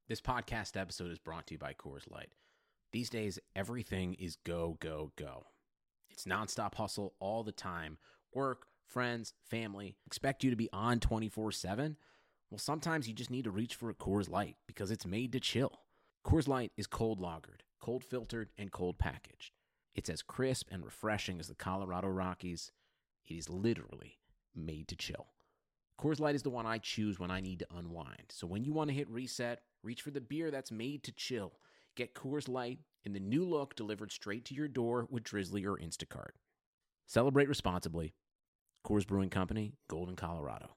This podcast episode is brought to you by Coors Light. These days, everything is go, go, go. It's nonstop hustle all the time. Work, friends, family, expect you to be on 24/7. Well, sometimes you just need to reach for a Coors Light because it's made to chill. Coors Light is cold lagered, cold filtered, and cold packaged. It's as crisp and refreshing as the Colorado Rockies. It is literally made to chill. Coors Light is the one I choose when I need to unwind. So when you want to hit reset, reach for the beer that's made to chill. Get Coors Light in the new look delivered straight to your door with Drizzly or Instacart. Celebrate responsibly. Coors Brewing Company, Golden, Colorado.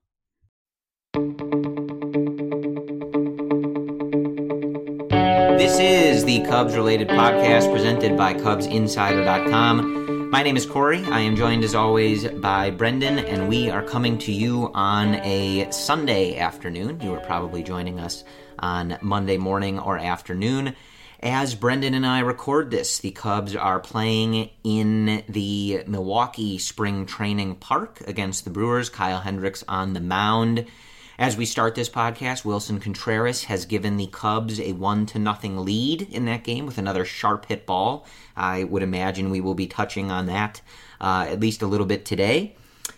This is the Cubs-related podcast presented by CubsInsider.com. My name is Corey. I am joined, as always, by Brendan, and we are coming to you on a Sunday afternoon. You are probably joining us on Monday morning or afternoon. As Brendan and I record this, the Cubs are playing in the Milwaukee Spring Training Park against the Brewers. Kyle Hendricks on the mound. As we start this podcast, Wilson Contreras has given the Cubs a 1-0 lead in that game with another sharp hit ball. I would imagine we will be touching on that at least a little bit today.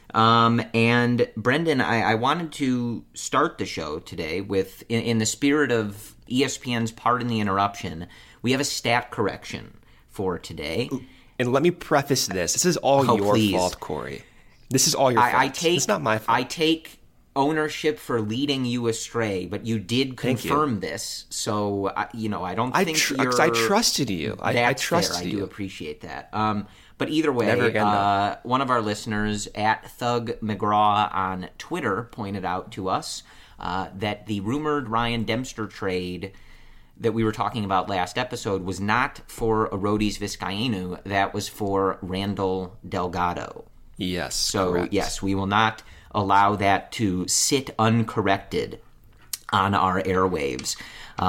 And Brendan, I wanted to start the show today with, in the spirit of ESPN's Pardon the Interruption, we have a stat correction for today. And let me preface this. This is all your fault, Corey. This is all your fault. It's not my fault. I take ownership for leading you astray, but you did confirm this, so I don't think you're. I trusted you. I trusted you. I do appreciate that. But either way, one of our listeners at Thug McGraw on Twitter pointed out to us that the rumored Ryan Dempster trade that we were talking about last episode was not for Arodys Vizcaino. That was for Randall Delgado. Yes. So correct. Yes, we will not allow that to sit uncorrected on our airwaves.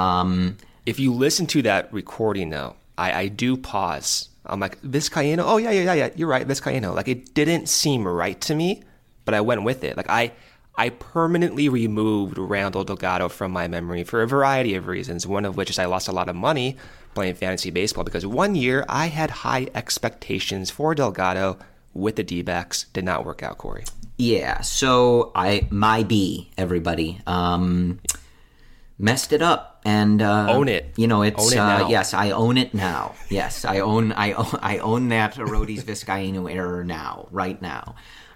If you listen to that recording, though, I do pause. I'm like, Vizcaino? Oh, yeah, you're right, Vizcaino. Like, it didn't seem right to me, but I went with it. Like, I permanently removed Randall Delgado from my memory for a variety of reasons, one of which is I lost a lot of money playing fantasy baseball because one year I had high expectations for Delgado with the D-backs. Did not work out, Corey. Yeah, so everybody, messed it up and own it. It's own it now. Yes, I own it now. Yes, I own that Arodys Vizcaino error now, right now.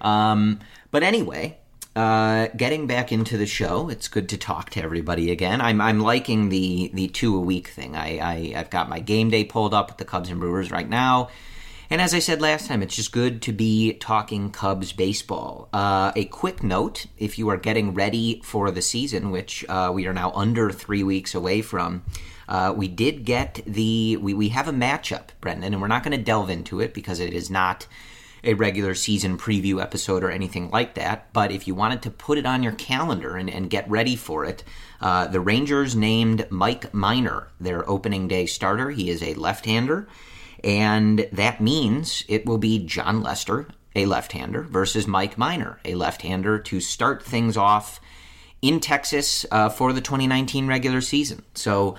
But anyway, getting back into the show, it's good to talk to everybody again. I'm liking the 2 a week thing. I've got my game day pulled up with the Cubs and Brewers right now. And as I said last time, it's just good to be talking Cubs baseball. A quick note, if you are getting ready for the season, which we are now under 3 weeks away from, we did get we have a matchup, Brendan, and we're not going to delve into it because it is not a regular season preview episode or anything like that. But if you wanted to put it on your calendar and get ready for it, the Rangers named Mike Minor their opening day starter. He is a left-hander. And that means it will be Jon Lester, a left-hander, versus Mike Minor, a left-hander, to start things off in Texas for the 2019 regular season. So,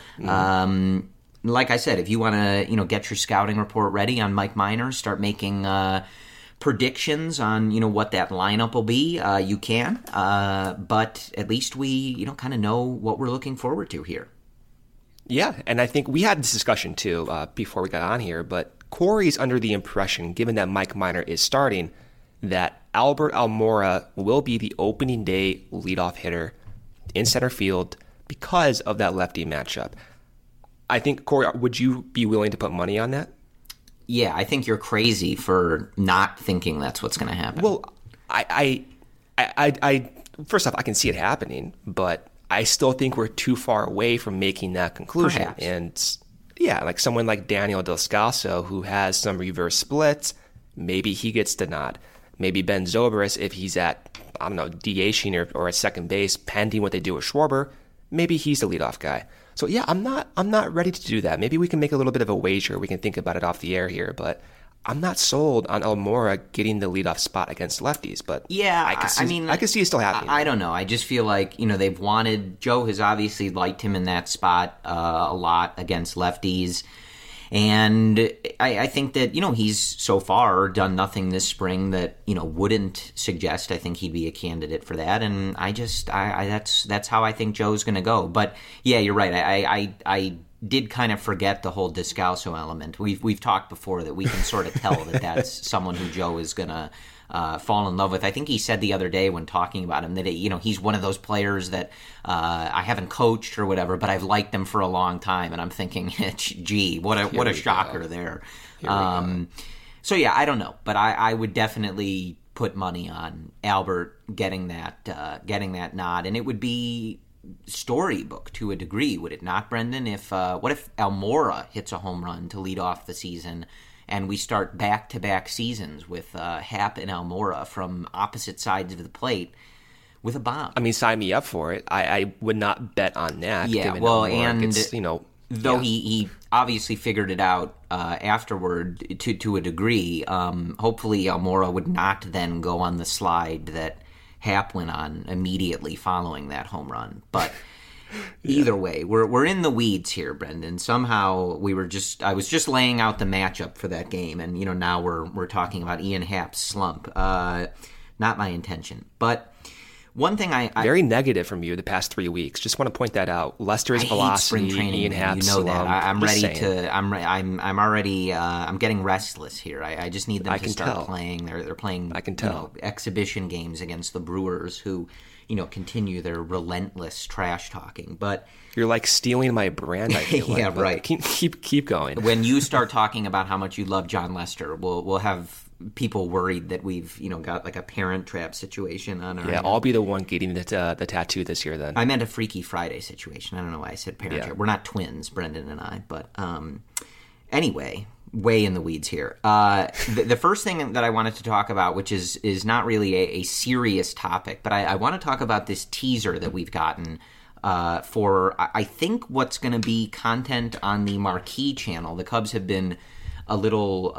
like I said, if you want to, get your scouting report ready on Mike Minor, start making predictions on, what that lineup will be, you can. But at least we, kind of know what we're looking forward to here. Yeah, and I think we had this discussion too before we got on here, but Corey's under the impression, given that Mike Minor is starting, that Albert Almora will be the opening day leadoff hitter in center field because of that lefty matchup. I think, Corey, would you be willing to put money on that? Yeah, I think you're crazy for not thinking that's what's going to happen. Well, I first off, I can see it happening, but I still think we're too far away from making that conclusion. Perhaps. And yeah, like someone like Daniel Descalso, who has some reverse splits, maybe he gets the nod. Maybe Ben Zobrist, if he's at, DHing or at second base, pending what they do with Schwarber, maybe he's the leadoff guy. So yeah, I'm not ready to do that. Maybe we can make a little bit of a wager. We can think about it off the air here, but I'm not sold on Almora getting the leadoff spot against lefties, but yeah, I can see it still happening. I don't know. I just feel like, they've wanted, Joe has obviously liked him in that spot a lot against lefties. And I think that, he's so far done nothing this spring that, wouldn't suggest I think he'd be a candidate for that. And that's how I think Joe's going to go. But yeah, you're right. I did kind of forget the whole Descalso element. We've talked before that we can sort of tell that that's someone who Joe is going to fall in love with. I think he said the other day when talking about him that he's one of those players that I haven't coached or whatever, but I've liked him for a long time. And I'm thinking, gee, what a shocker there. So yeah, I don't know, but I would definitely put money on Albert getting that nod, and it would be storybook to a degree, would it not, Brendan? What if Almora hits a home run to lead off the season, and we start back-to-back seasons with Happ and Almora from opposite sides of the plate with a bomb? I mean, sign me up for it. I would not bet on that. Yeah, well, and though he obviously figured it out afterward to a degree, hopefully Almora would not then go on the slide that Happ went on immediately following that home run. But either way, we're in the weeds here, Brendan. Somehow I was just laying out the matchup for that game, and now we're talking about Ian Happ's slump. Not my intention, but one thing I very negative from you the past 3 weeks. Just want to point that out. Lester's velocity, Ian Happ's slump. That. I'm ready to. I'm already. I'm getting restless here. I just need them to start playing. They're playing. I can tell exhibition games against the Brewers, who continue their relentless trash talking. But you're like stealing my brand. I feel yeah, like. Right. Keep going. When you start talking about how much you love John Lester, we'll have people worried that we've got like a Parent Trap situation on our I'll be the one getting the tattoo this year then. I meant a Freaky Friday situation. I don't know why I said Parent Trap. We're not twins, Brendan and I, but anyway, way in the weeds here. The first thing that I wanted to talk about, which is not really a serious topic, but I want to talk about this teaser that we've gotten for I think what's going to be content on the Marquee channel. The Cubs have been a little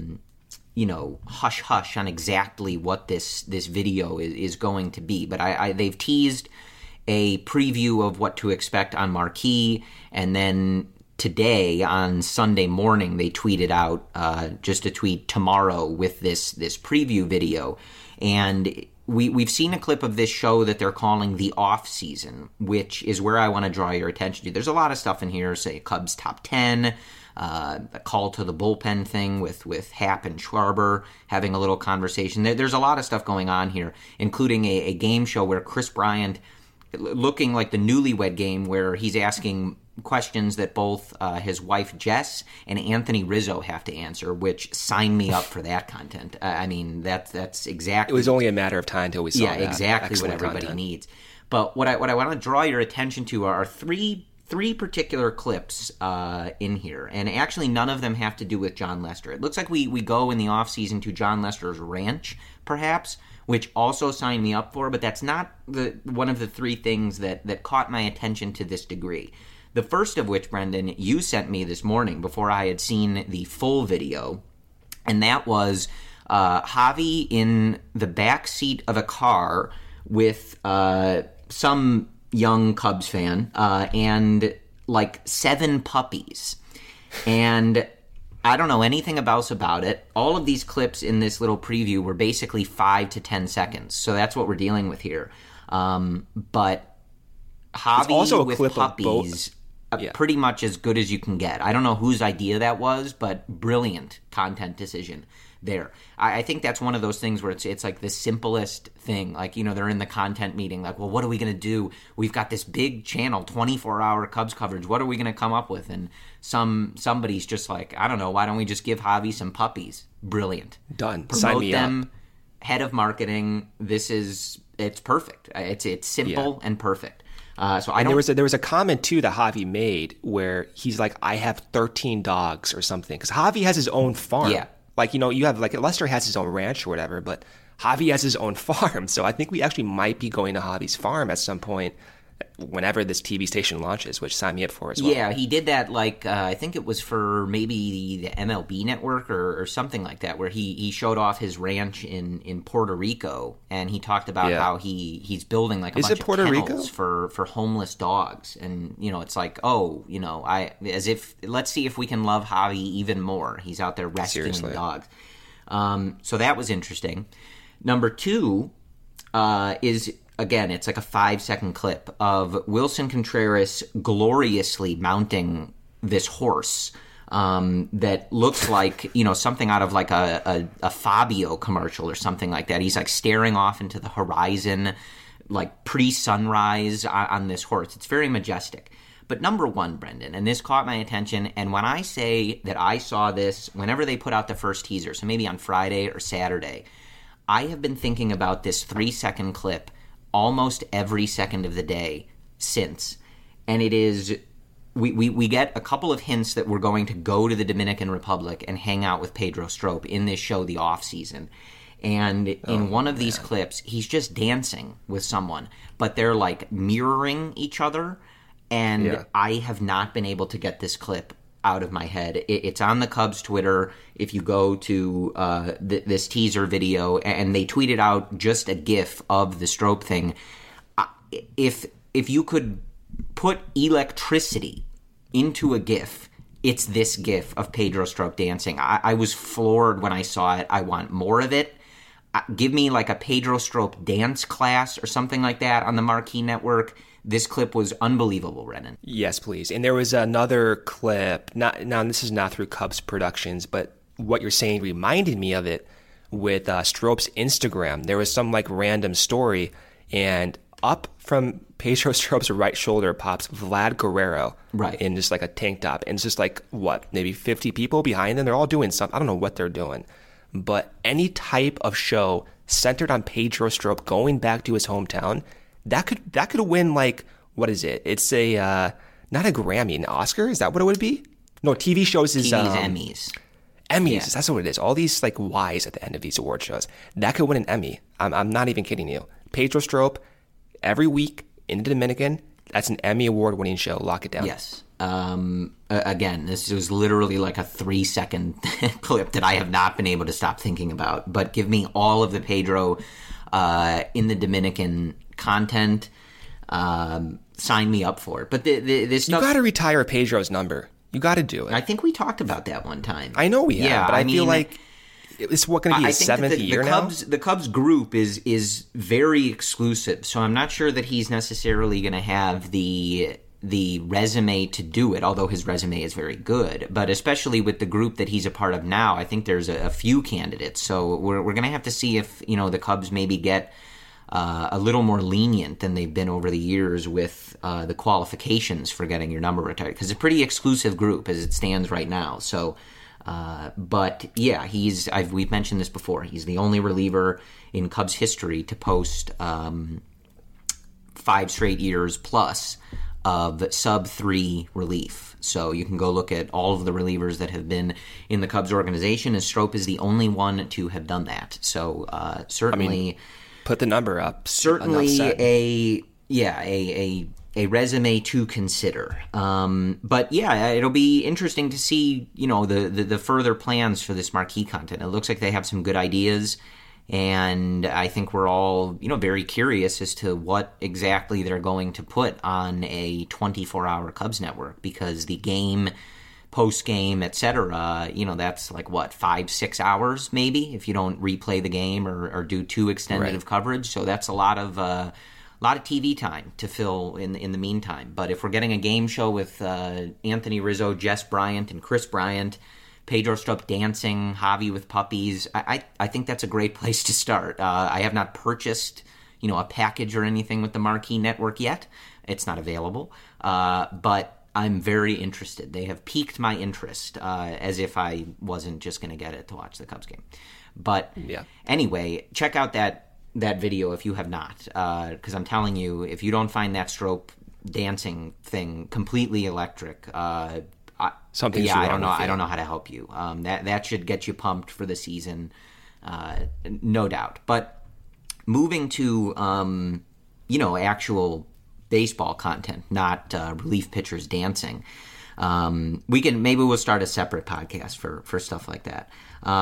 hush-hush on exactly what this video is going to be. But they've teased a preview of what to expect on Marquee, and then today, on Sunday morning, they tweeted out just a tweet tomorrow with this preview video. And we've seen a clip of this show that they're calling The Off Season, which is where I want to draw your attention to. There's a lot of stuff in here, say Cubs Top 10, a call to the bullpen thing with Happ and Schwarber having a little conversation. There's a lot of stuff going on here, including a game show where Chris Bryant, looking like the Newlywed Game, where he's asking questions that both his wife Jess and Anthony Rizzo have to answer, which sign me up for that content. I mean, that's exactly... It was only a matter of time until we saw that. Yeah, exactly. Excellent what everybody needs. But what I want to draw your attention to are three particular clips in here, and actually none of them have to do with John Lester. It looks like we go in the offseason to John Lester's ranch, perhaps, which also signed me up for, but that's not one of the three things that caught my attention to this degree. The first of which, Brendan, you sent me this morning before I had seen the full video, and that was Javi in the back seat of a car with some young Cubs fan and like 7 puppies. And I don't know anything else about it. All of these clips in this little preview were basically 5 to 10 seconds. So that's what we're dealing with here. But Javi also a with clip puppies, pretty much as good as you can get. I don't know whose idea that was, but brilliant content decision there. I think that's one of those things where it's like the simplest thing. Like, they're in the content meeting, like, well, what are we going to do? We've got this big channel, 24-hour Cubs coverage. What are we going to come up with? And somebody's just like, I don't know, why don't we just give Javi some puppies? Brilliant. Done. Promote Sign me them. up. Head of marketing. It's perfect. It's simple and perfect. There was a comment too that Javi made where he's like, I have 13 dogs or something, because Javi has his own farm. Yeah. Like, you have like Lester has his own ranch or whatever, but Javi has his own farm. So I think we actually might be going to Javi's farm at some point whenever this TV station launches, which sign me up for as well. Yeah, he did that I think it was for maybe the MLB network or something like that, where he showed off his ranch in Puerto Rico, and he talked about how he's building like a bunch of kennels for homeless dogs. And, it's like, let's see if we can love Javi even more. He's out there rescuing dogs. So that was interesting. Number 2 is... Again, it's like a 5-second clip of Wilson Contreras gloriously mounting this horse that looks like, something out of like a Fabio commercial or something like that. He's like staring off into the horizon, like pre-sunrise on this horse. It's very majestic. But number 1, Brendan, and this caught my attention, and when I say that I saw this whenever they put out the first teaser, so maybe on Friday or Saturday, I have been thinking about this 3-second clip almost every second of the day since. And it is, we get a couple of hints that we're going to go to the Dominican Republic and hang out with Pedro Strop in this show, The Off Season. And in one of these clips, he's just dancing with someone, but they're like mirroring each other. And I have not been able to get this clip out of my head. It's on the Cubs Twitter. If you go to this teaser video, and they tweeted out just a GIF of the Strop thing. If you could put electricity into a GIF, it's this GIF of Pedro Strop dancing. I was floored when I saw it. I want more of it. Give me like a Pedro Strop dance class or something like that on the Marquee Network. This clip was unbelievable, Renan. Yes, please. And there was another clip. Now, this is not through Cubs Productions, but what you're saying reminded me of it with Strop's Instagram. There was some like random story, and up from Pedro Strop's right shoulder pops Vlad Guerrero, right, in just like a tank top, and it's just like maybe 50 people behind them. They're all doing something. I don't know what they're doing, but any type of show centered on Pedro Strop going back to his hometown. That could win, like, what is it? It's a not a Grammy, an Oscar. Is that what it would be? No, TV shows is Emmys. Emmys, yeah. That's what it is. All these like Y's at the end of these award shows. That could win an Emmy. I'm not even kidding you. Pedro Strop every week in the Dominican. That's an Emmy award-winning show. Lock it down. Yes. Again, this was literally like a 3-second clip that I have not been able to stop thinking about. But give me all of the Pedro in the Dominican content. Sign me up for it. But this stuff, you got to retire Pedro's number. You got to do it. I think we talked about that one time. I know we have, but I feel like it's going to be his 7th year now. The Cubs group is very exclusive, so I'm not sure that he's necessarily going to have the resume to do it, although his resume is very good. But especially with the group that he's a part of now, I think there's a few candidates. So we're going to have to see if the Cubs maybe get a little more lenient than they've been over the years with the qualifications for getting your number retired, because it's a pretty exclusive group as it stands right now. So, but yeah, we've mentioned this before. He's the only reliever in Cubs history to post 5 straight years plus of sub-3 relief. So you can go look at all of the relievers that have been in the Cubs organization, and Strop is the only one to have done that. So certainly, put the number up. Certainly a resume to consider. But yeah, it'll be interesting to see the further plans for this marquee content. It looks like they have some good ideas. And I think we're all, very curious as to what exactly they're going to put on a 24-hour Cubs network, because the game, post-game, etc., that's like, 5-6 hours maybe if you don't replay the game or do too extended of coverage. So that's a lot of TV time to fill in the meantime. But if we're getting a game show with Anthony Rizzo, Jess Bryant, and Chris Bryant, Pedro Strop dancing, Javi with puppies, I think that's a great place to start. I have not purchased, a package or anything with the Marquee Network yet. It's not available. But I'm very interested. They have piqued my interest, as if I wasn't just going to get it to watch the Cubs game. But anyway, check out that video if you have not, because I'm telling you, if you don't find that Strop dancing thing completely electric, something. I don't know. I don't know how to help you. That should get you pumped for the season, no doubt. But moving to actual baseball content, not relief pitchers dancing. Maybe we'll start a separate podcast for stuff like that.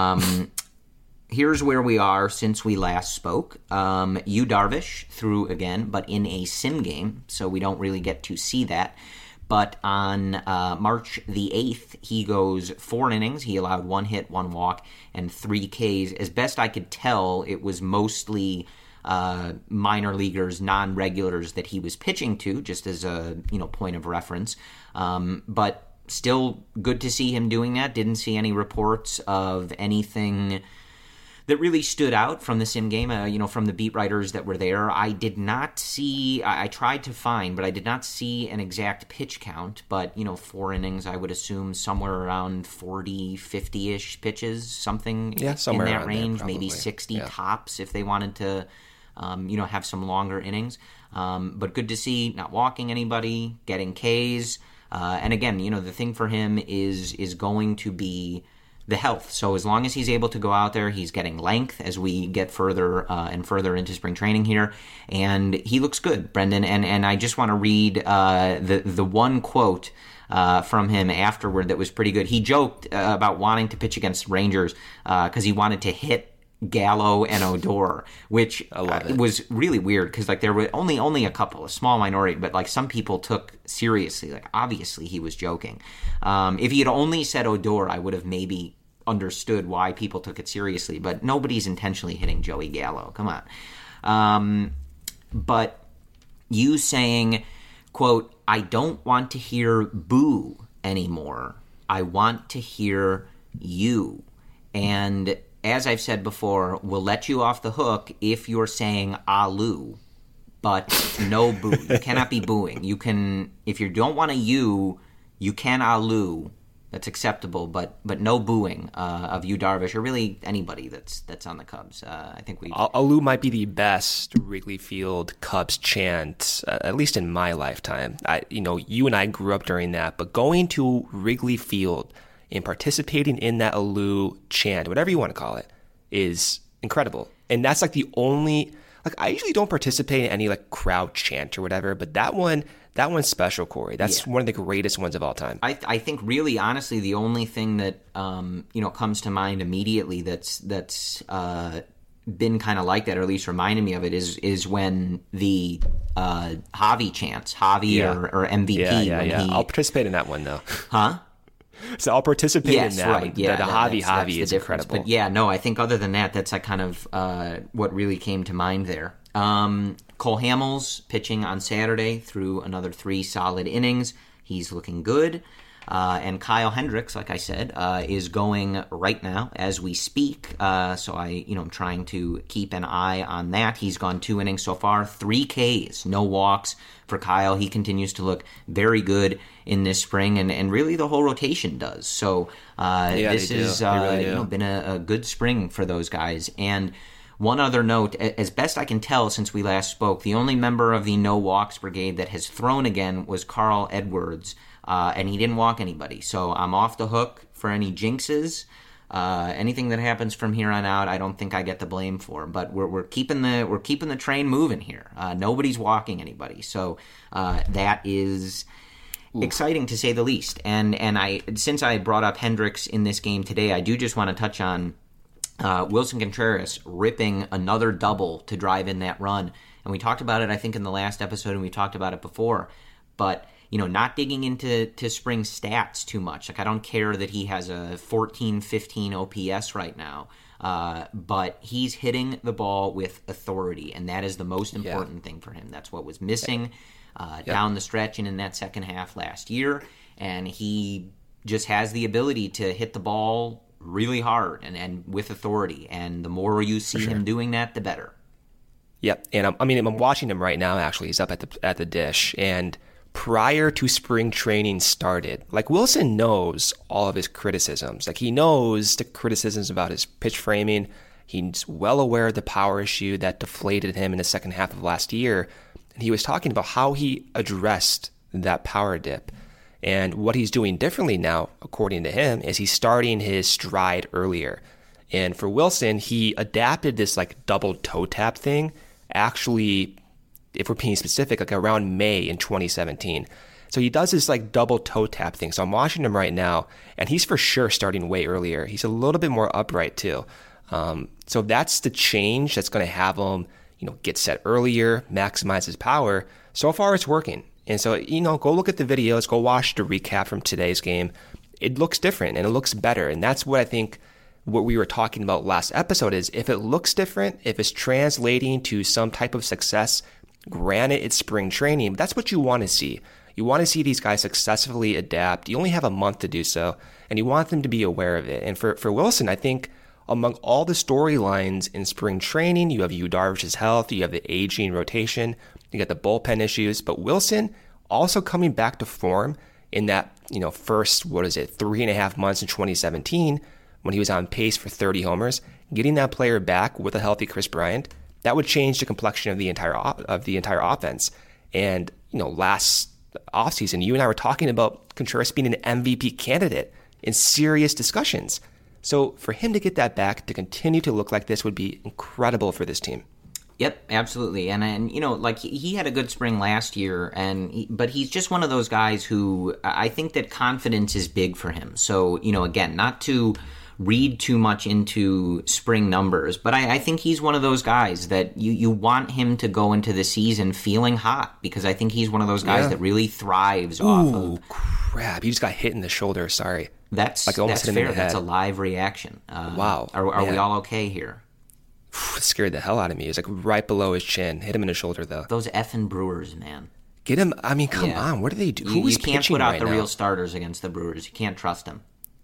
Here's where we are since we last spoke. Yu Darvish threw again, but in a sim game, so we don't really get to see that. But on March the 8th, he goes 4 innings. He allowed 1 hit, 1 walk, and 3 Ks. As best I could tell, it was mostly minor leaguers, non-regulars that he was pitching to, just as a point of reference. But still good to see him doing that. Didn't see any reports of anything that really stood out from the sim game, from the beat writers that were there. I did not see, I tried to find, but I did not see an exact pitch count. But, 4 innings, I would assume somewhere around 40, 50-ish pitches, something in that range, maybe 60 tops if they wanted to, have some longer innings. But good to see, not walking anybody, getting Ks. And again, the thing for him is going to be the health. So as long as he's able to go out there, he's getting length as we get further and further into spring training here, and he looks good, Brendan. And I just want to read the one quote from him afterward that was pretty good. He joked about wanting to pitch against Rangers because he wanted to hit Gallo and Odor, which was really weird because there were only a couple, a small minority, but some people took seriously. Obviously he was joking. If he had only said Odor, I would have maybe understood why people took it seriously, but nobody's intentionally hitting Joey Gallo. Come on. But you saying, quote, "I don't want to hear boo anymore. I want to hear you." And as I've said before, we'll let you off the hook if you're saying Alu, but no boo. You cannot be booing. You can, if you don't want a you can Alu. That's acceptable, but no booing of Yu Darvish or really anybody that's on the Cubs. I think Alu might be the best Wrigley Field Cubs chant, at least in my lifetime. You and I grew up during that, but going to Wrigley Field and participating in that Alu chant, whatever you want to call it, is incredible. And that's the only, I usually don't participate in any crowd chant or whatever, but that one's special, Corey. That's one of the greatest ones of all time. I think really, honestly, the only thing that, comes to mind immediately that's been kind of like that, or at least reminded me of it, is when the Javi chants, or MVP. I'll participate in that one, though. Huh? So I'll participate in that. Right. Yeah, the Javi is incredible. But I think other than that, that's kind of what really came to mind there. Cole Hamels pitching on Saturday through another 3 solid innings. He's looking good. And Kyle Hendricks, like I said, is going right now as we speak. So I'm trying to keep an eye on that. He's gone 2 innings so far, 3 Ks, no walks for Kyle. He continues to look very good in this spring, and really the whole rotation does. So this has been a good spring for those guys. And one other note, as best I can tell since we last spoke, the only member of the no walks brigade that has thrown again was Carl Edwards. And he didn't walk anybody. So I'm off the hook for any jinxes. Anything that happens from here on out, I don't think I get the blame for. But we're keeping the train moving here. Nobody's walking anybody. So that is exciting to say the least. And since I brought up Hendricks in this game today, I do just want to touch on Wilson Contreras ripping another double to drive in that run. And we talked about it, I think, in the last episode, and we talked about it before. But not digging into spring stats too much. I don't care that he has a 14-15 OPS right now, but he's hitting the ball with authority, and that is the most important thing for him. That's what was missing down the stretch and in that second half last year, and he just has the ability to hit the ball really hard and with authority, and the more you see him doing that, the better. Yep, and I'm watching him right now, actually. He's up at the dish, and prior to spring training started, Wilson knows all of his criticisms. He knows the criticisms about his pitch framing. He's well aware of the power issue that deflated him in the second half of last year. And he was talking about how he addressed that power dip. And what he's doing differently now, according to him, is he's starting his stride earlier. And for Wilson, he adapted this double toe tap thing. Actually, if we're being specific, like around May in 2017. So he does this like double toe tap thing. So I'm watching him right now, and he's for sure starting way earlier. He's a little bit more upright too. So that's the change that's going to have him, get set earlier, maximize his power. So far, it's working. And so, go look at the videos, go watch the recap from today's game. It looks different and it looks better. And that's what I think what we were talking about last episode is if it looks different, if it's translating to some type of success, granted it's spring training, that's what you want to see. You want to see these guys successfully adapt. You only have a month to do so, and you want them to be aware of it. And for Wilson, I think among all the storylines in spring training, you have Yu Darvish's health, you have the aging rotation, you got the bullpen issues, but Wilson also coming back to form in that, first, 3.5 months in 2017 when he was on pace for 30 homers, getting that player back with a healthy Chris Bryant, that would change the complexion of the entire offense. And, last offseason, you and I were talking about Contreras being an MVP candidate in serious discussions. So for him to get that back, to continue to look like this would be incredible for this team. Yep, absolutely. And he had a good spring last year, but he's just one of those guys who I think that confidence is big for him. So, again, not to read too much into spring numbers, but I think he's one of those guys that you want him to go into the season feeling hot, because I think he's one of those guys that really thrives off of... crap, you just got hit in the shoulder, sorry. That's fair. That's a live reaction. Wow. Are we all okay here? It scared the hell out of me. It was like right below his chin. Hit him in the shoulder, though. Those effing Brewers, man. Get him. I mean, come on. What do they do? Who is pitching right now? You can't put out the real starters against the Brewers. You can't trust them.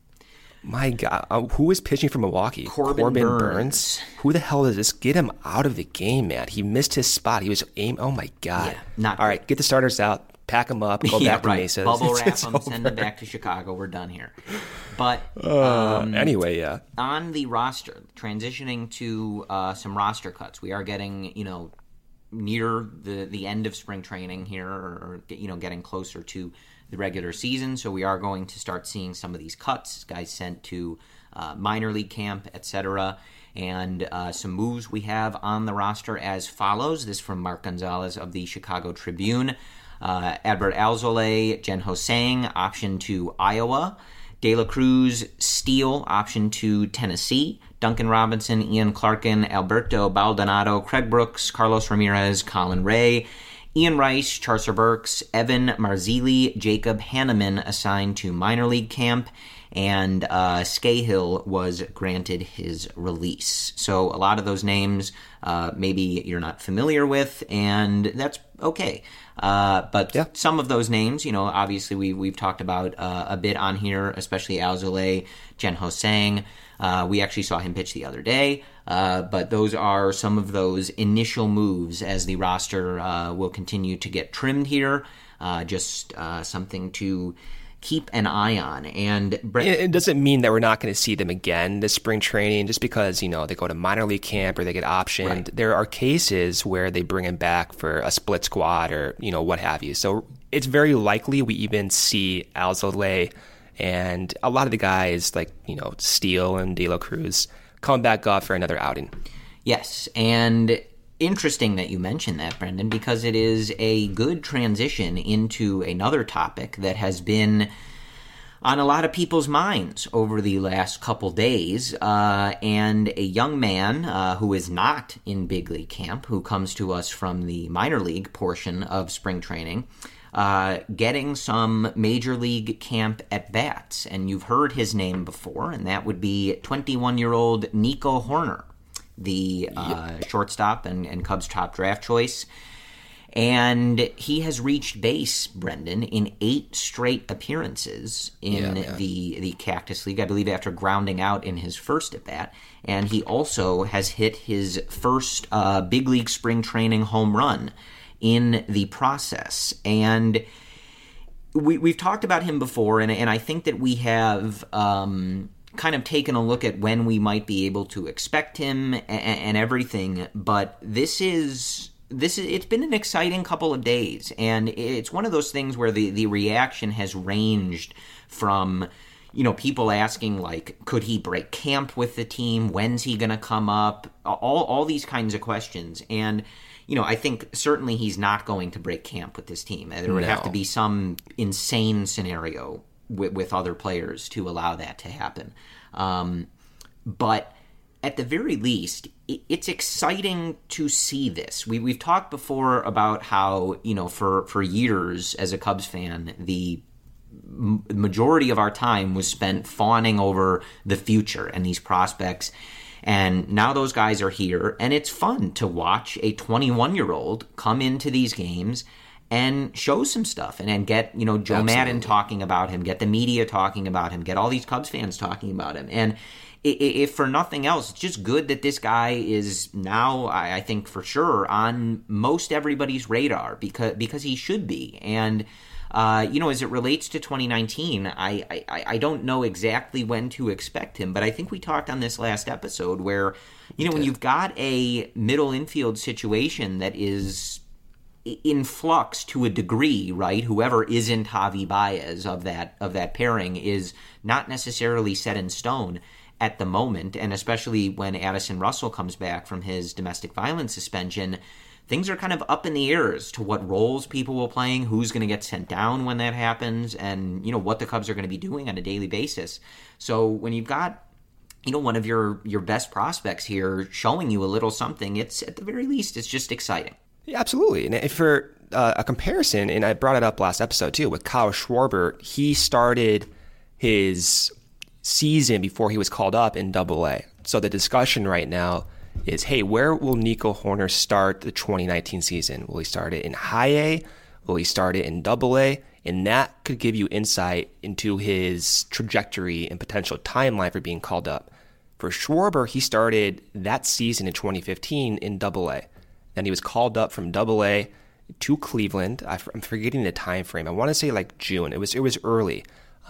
My God. Who is pitching for Milwaukee? Corbin Burns. Who the hell is this? Get him out of the game, man. He missed his spot. He was aim. Oh, my God. Yeah, all right, get the starters out. Pack them up. Go back to Mesa. Bubble wrap them. Send them back to Chicago. We're done here. But anyway, yeah. On the roster, transitioning to some roster cuts, we are getting near the end of spring training here, or getting closer to the regular season. So we are going to start seeing some of these cuts, guys sent to minor league camp, etc. And some moves we have on the roster as follows. This from Mark Gonzalez of the Chicago Tribune. Adbert Alzolay, Jen Ho-Sang, option to Iowa. De La Cruz, Steele, option to Tennessee. Duncan Robinson, Ian Clarkin, Alberto Baldonado, Craig Brooks, Carlos Ramirez, Colin Ray, Ian Rice, Charcer Burks, Evan Marzilli, Jacob Hanneman assigned to minor league camp, and Scahill was granted his release. So a lot of those names maybe you're not familiar with, and that's okay. But some of those names, obviously we've talked about a bit on here, especially Alzolay, Jen Ho-Sang. We actually saw him pitch the other day. But those are some of those initial moves as the roster will continue to get trimmed here. Just something to keep an eye on. And it doesn't mean that we're not going to see them again this spring training just because, they go to minor league camp or they get optioned. Right. There are cases where they bring him back for a split squad or, what have you. So it's very likely we even see Alzolay and a lot of the guys like, Steele and De La Cruz come back up for another outing. Yes, and interesting that you mentioned that, Brendan, because it is a good transition into another topic that has been on a lot of people's minds over the last couple days, and a young man who is not in big league camp, who comes to us from the minor league portion of spring training, getting some major league camp at-bats. And you've heard his name before, and that would be 21-year-old Nico Hoerner, the shortstop and Cubs' top draft choice. And he has reached base, Brendan, in 8 straight appearances in the Cactus League, I believe after grounding out in his first at-bat. And he also has hit his first big league spring training home run in the process. And we've talked about him before, and I think that we have kind of taken a look at when we might be able to expect him and everything, but it's been an exciting couple of days, and it's one of those things where the reaction has ranged from people asking, like, could he break camp with the team? When's he going to come up? All these kinds of questions. And, I think certainly he's not going to break camp with this team. There would have to be some insane scenario with other players to allow that to happen. But at the very least, it's exciting to see this. We've talked before about how, for years as a Cubs fan, the majority of our time was spent fawning over the future and these prospects. And now those guys are here, and it's fun to watch a 21-year-old come into these games and show some stuff and get, Joe Maddon talking about him, get the media talking about him, get all these Cubs fans talking about him. And if for nothing else, it's just good that this guy is now, I think for sure, on most everybody's radar because he should be. And as it relates to 2019, I don't know exactly when to expect him, but I think we talked on this last episode where, when you've got a middle infield situation that is in flux to a degree, right? Whoever isn't Javi Baez of that pairing is not necessarily set in stone at the moment, and especially when Addison Russell comes back from his domestic violence suspension, things are kind of up in the air as to what roles people will playing, who's going to get sent down when that happens, and what the Cubs are going to be doing on a daily basis. So when you've got one of your best prospects here showing you a little something, it's at the very least it's just exciting. Yeah, absolutely. And for a comparison, and I brought it up last episode too, with Kyle Schwarber, he started his season before he was called up in Double-A. So the discussion right now is, hey, where will Nico Hoerner start the 2019 season? Will he start it in High A? Will he start it in Double-A? And that could give you insight into his trajectory and potential timeline for being called up. For Schwarber, he started that season in 2015 in Double-A. Then he was called up from Double-A to Cleveland. I'm forgetting the time frame. I want to say like June. It was early.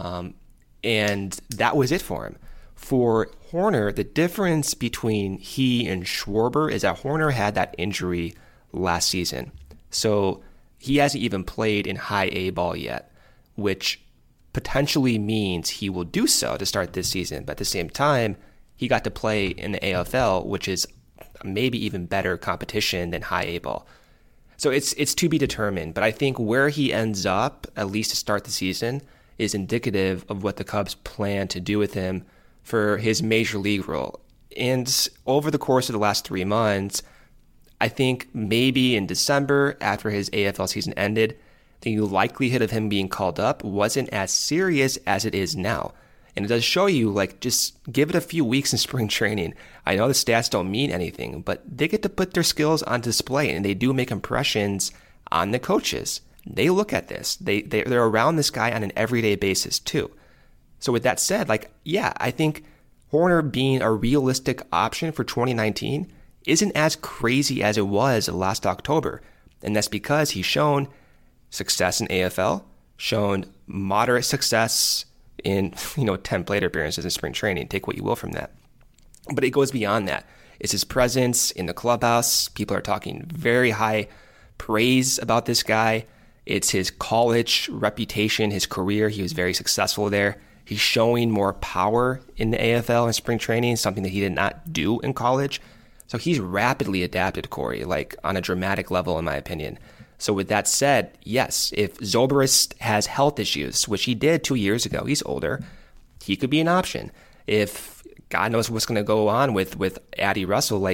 And that was it for him. For Hoerner, the difference between he and Schwarber is that Hoerner had that injury last season. So he hasn't even played in High A ball yet, which potentially means he will do so to start this season. But at the same time, he got to play in the AFL, which is maybe even better competition than High A ball. So it's to be determined. But I think where he ends up, at least to start the season, is indicative of what the Cubs plan to do with him for his major league role. And over the course of the last 3 months, I think maybe in December, after his AFL season ended, the likelihood of him being called up wasn't as serious as it is now. And it does show you, just give it a few weeks in spring training. I know the stats don't mean anything, but they get to put their skills on display, and they do make impressions on the coaches. They look at this. They're around this guy on an everyday basis too. So with that said, I think Hoerner being a realistic option for 2019 isn't as crazy as it was last October. And that's because he's shown success in AFL, shown moderate success in 10 plate appearances in spring training. Take what you will from that. But it goes beyond that. It's his presence in the clubhouse. People are talking very high praise about this guy. It's his college reputation, his career. He was very successful there. He's showing more power in the AFL in spring training, something that he did not do in college. So he's rapidly adapted, Corey, on a dramatic level, in my opinion. So with that said, yes, if Zobrist has health issues, which he did 2 years ago, he's older, he could be an option. If God knows what's going to go on with Addie Russell,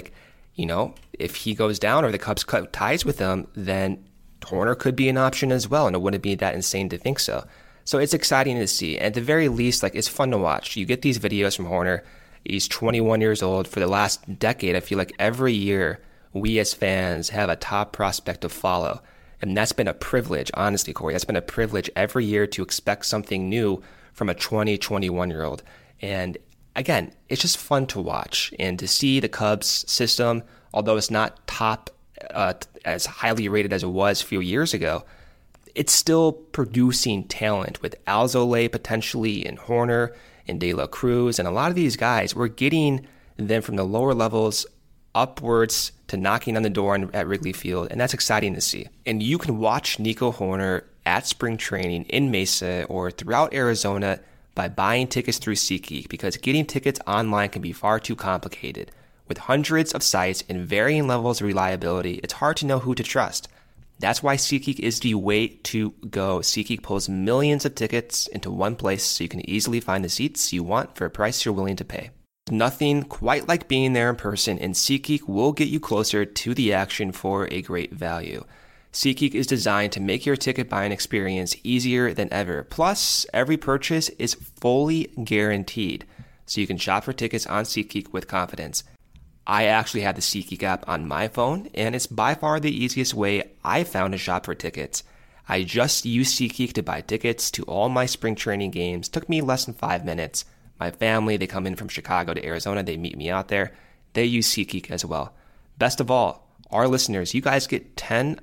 if he goes down or the Cubs cut ties with him, then Hoerner could be an option as well, and it wouldn't be that insane to think so. So it's exciting to see. At the very least, it's fun to watch. You get these videos from Hoerner. He's 21 years old. For the last decade, I feel like every year we as fans have a top prospect to follow. And that's been a privilege, honestly, Corey. That's been a privilege every year to expect something new from a 21-year-old. And again, it's just fun to watch and to see the Cubs system, although it's not top as highly rated as it was a few years ago, it's still producing talent with Alzolay potentially and Hoerner and De La Cruz. And a lot of these guys, we're getting them from the lower levels upwards to knocking on the door at Wrigley Field. And that's exciting to see. And you can watch Nico Hoerner at spring training in Mesa or throughout Arizona by buying tickets through SeatGeek, because getting tickets online can be far too complicated. With hundreds of sites and varying levels of reliability, it's hard to know who to trust. That's why SeatGeek is the way to go. SeatGeek pulls millions of tickets into one place so you can easily find the seats you want for a price you're willing to pay. Nothing quite like being there in person, and SeatGeek will get you closer to the action for a great value. SeatGeek is designed to make your ticket buying experience easier than ever. Plus, every purchase is fully guaranteed, so you can shop for tickets on SeatGeek with confidence. I actually have the SeatGeek app on my phone, and it's by far the easiest way I found to shop for tickets. I just use SeatGeek to buy tickets to all my spring training games. Took me less than 5 minutes. My family, they come in from Chicago to Arizona. They meet me out there. They use SeatGeek as well. Best of all, our listeners, you guys get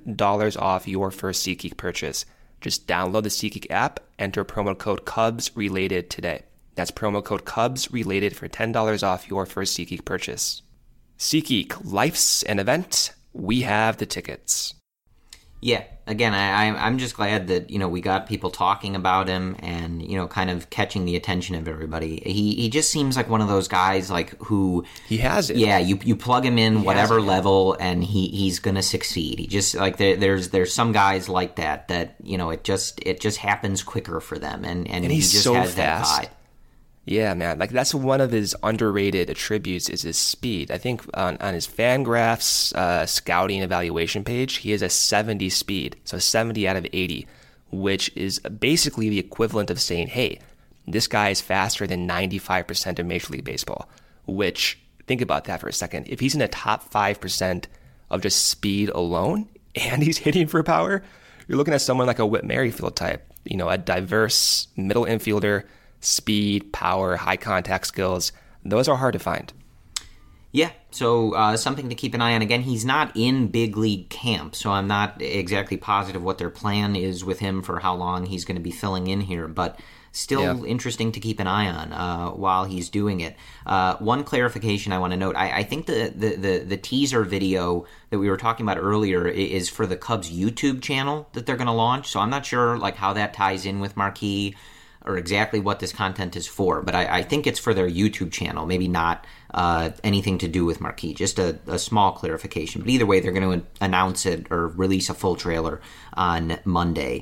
$10 off your first SeatGeek purchase. Just download the SeatGeek app, enter promo code CubsRelated today. That's promo code CubsRelated for $10 off your first SeatGeek purchase. SeatGeek, life's an event. We have the tickets. Yeah, again, I'm just glad that, we got people talking about him and, kind of catching the attention of everybody. He just seems like one of those guys, like, who... He has it. Yeah, you plug him in whatever level and he's going to succeed. He just, like, there's some guys like that, it just happens quicker for them. And he he's just so has fast. that vibe. Yeah, man. Like, that's one of his underrated attributes is his speed. I think on his Fangraphs scouting evaluation page, he has a 70 speed, so 70 out of 80, which is basically the equivalent of saying, hey, this guy is faster than 95% of Major League Baseball, which, think about that for a second. If he's in the top 5% of just speed alone, and he's hitting for power, you're looking at someone like a Whit Merrifield type, a diverse middle infielder, speed, power, high contact skills. Those are hard to find. Yeah, so something to keep an eye on. Again, he's not in big league camp, so I'm not exactly positive what their plan is with him for how long he's going to be filling in here, but still interesting to keep an eye on while he's doing it. One clarification I want to note, I think the teaser video that we were talking about earlier is for the Cubs YouTube channel that they're going to launch, so I'm not sure like how that ties in with Marquee or exactly what this content is for, but I think it's for their YouTube channel, maybe not anything to do with Marquee, just a small clarification. But either way, they're going to announce it or release a full trailer on Monday,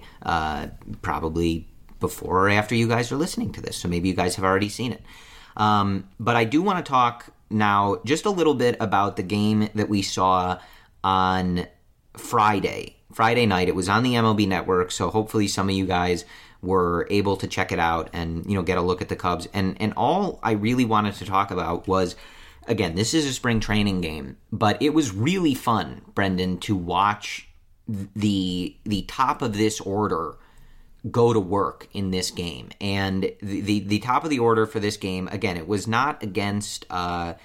probably before or after you guys are listening to this, so maybe you guys have already seen it. But I do want to talk now just a little bit about the game that we saw on Friday night. It was on the MLB Network, so hopefully some of you guys were able to check it out and, get a look at the Cubs. And all I really wanted to talk about was, again, this is a spring training game, but it was really fun, Brendan, to watch the top of this order go to work in this game. And the top of the order for this game, again, it was not against, high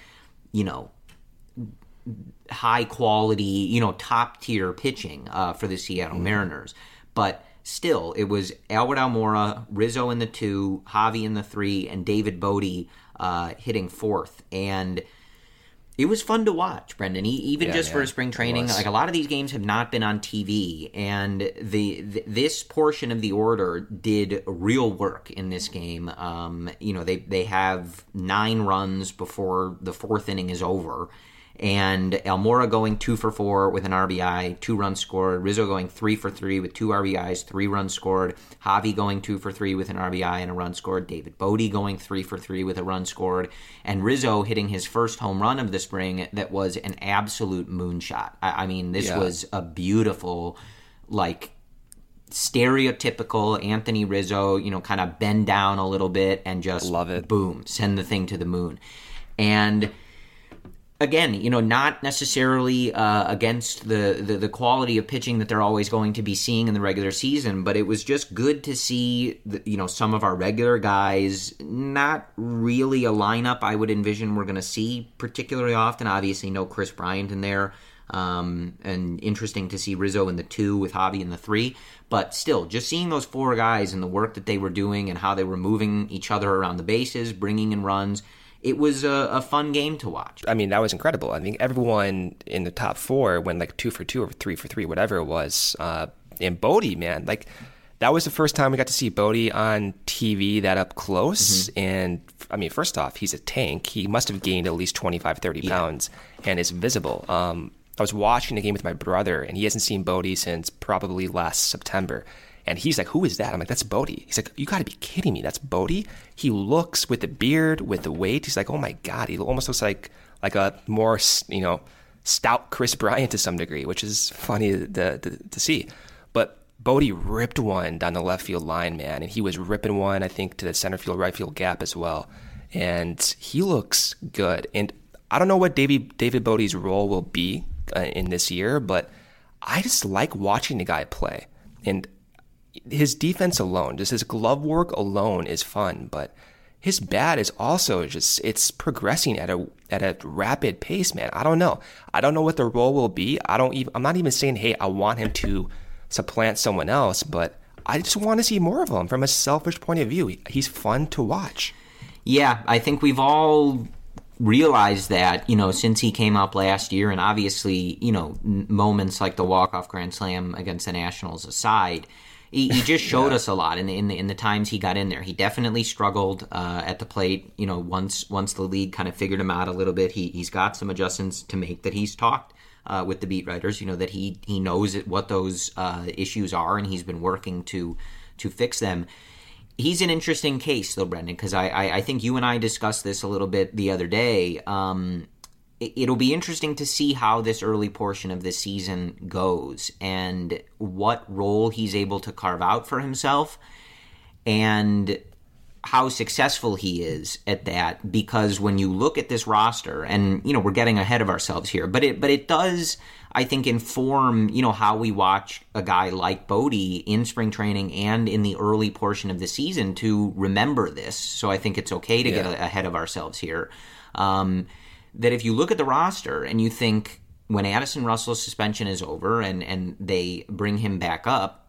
quality, top tier pitching for the Seattle Mariners, but still, it was Albert Almora, Rizzo in the 2, Javi in the 3, and David Bodie hitting 4th. And it was fun to watch, Brendan. For spring training, like a lot of these games have not been on TV, and this portion of the order did real work in this game. They have 9 runs before the 4th inning is over. And Almora going 2 for 4 with an RBI, 2 runs scored. Rizzo going 3 for 3 with 2 RBIs, 3 runs scored. Javi going 2 for 3 with an RBI and a run scored. David Bodie going 3 for 3 with a run scored. And Rizzo hitting his first home run of the spring that was an absolute moonshot. I mean, this was a beautiful, like, stereotypical Anthony Rizzo, kind of bend down a little bit and just love it. Boom, send the thing to the moon. And again, not necessarily against the quality of pitching that they're always going to be seeing in the regular season, but it was just good to see, some of our regular guys, not really a lineup I would envision we're going to see particularly often. Obviously, no Chris Bryant in there, and interesting to see Rizzo in the 2 with Javi in the 3, but still, just seeing those 4 guys and the work that they were doing and how they were moving each other around the bases, bringing in runs. It was a fun game to watch. I mean, that was incredible. I think everyone in the top 4 went like 2 for 2 or 3 for 3, whatever it was. And Bodie, man, like that was the first time we got to see Bodie on TV that up close. And I mean, first off, he's a tank. He must have gained at least 25, 30 pounds and is visible. I was watching the game with my brother, and he hasn't seen Bodie since probably last September. And he's like, who is that? I'm like, that's Bodie. He's like, you got to be kidding me. That's Bodie? He looks, with the beard, with the weight, he's like, oh my God, he almost looks like a more, stout Chris Bryant to some degree, which is funny to see. But Bodie ripped one down the left field line, man, and he was ripping one, I think, to the center field, right field gap as well. And he looks good. And I don't know what David Bodie's role will be in this year, but I just like watching the guy play. And his defense alone, just his glove work alone is fun, but his bat is also it's progressing at a rapid pace, man. I don't know. I don't know what the role will be. I'm not even saying, hey, I want him to supplant someone else, but I just want to see more of him from a selfish point of view. He's fun to watch. Yeah, I think we've all realized that, since he came up last year, and obviously, moments like the walk-off grand slam against the Nationals aside, he just showed us a lot in the times he got in there. He definitely struggled at the plate. Once the league kind of figured him out a little bit, he's got some adjustments to make that he's talked with the beat writers. That he knows what those issues are, and he's been working to fix them. He's an interesting case, though, Brendan, because I think you and I discussed this a little bit the other day. It'll be interesting to see how this early portion of this season goes and what role he's able to carve out for himself and how successful he is at that. Because when you look at this roster, and we're getting ahead of ourselves here, but it does, I think, inform how we watch a guy like Bodie in spring training and in the early portion of the season to remember this. So I think it's okay to get ahead of ourselves here. That if you look at the roster and you think when Addison Russell's suspension is over and they bring him back up,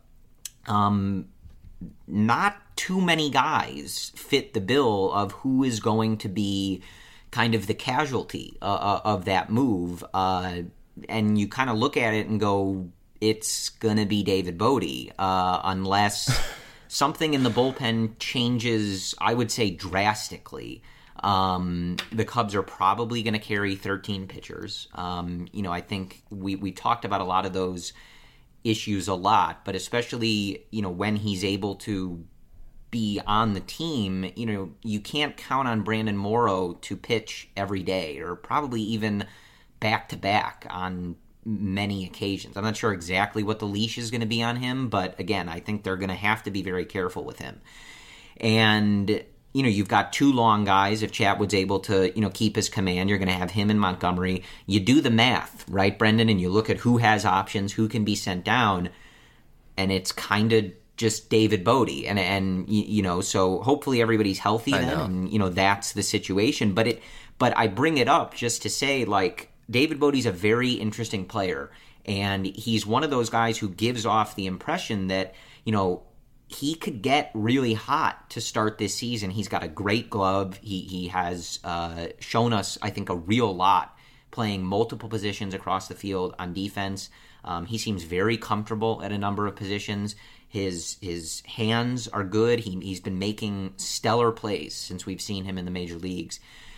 not too many guys fit the bill of who is going to be kind of the casualty of that move. And you kind of look at it and go, it's going to be David Bodie, unless something in the bullpen changes, I would say, drastically. The Cubs are probably going to carry 13 pitchers. I think we talked about a lot of those issues a lot, but especially, when he's able to be on the team, you can't count on Brandon Morrow to pitch every day or probably even back-to-back on many occasions. I'm not sure exactly what the leash is going to be on him, but again, I think they're going to have to be very careful with him. And you've got two long guys. If Chatwood's able to, keep his command, you're going to have him and Montgomery. You do the math, right, Brendan? And you look at who has options, who can be sent down, and it's kind of just David Bodie. And so hopefully everybody's healthy then, and, that's the situation. But I bring it up just to say, David Bodie's a very interesting player, and he's one of those guys who gives off the impression that, he could get really hot to start this season. He's got a great glove. He has shown us, I think, a real lot playing multiple positions across the field on defense. He seems very comfortable at a number of positions. His hands are good. He's been making stellar plays since we've seen him in the major leagues.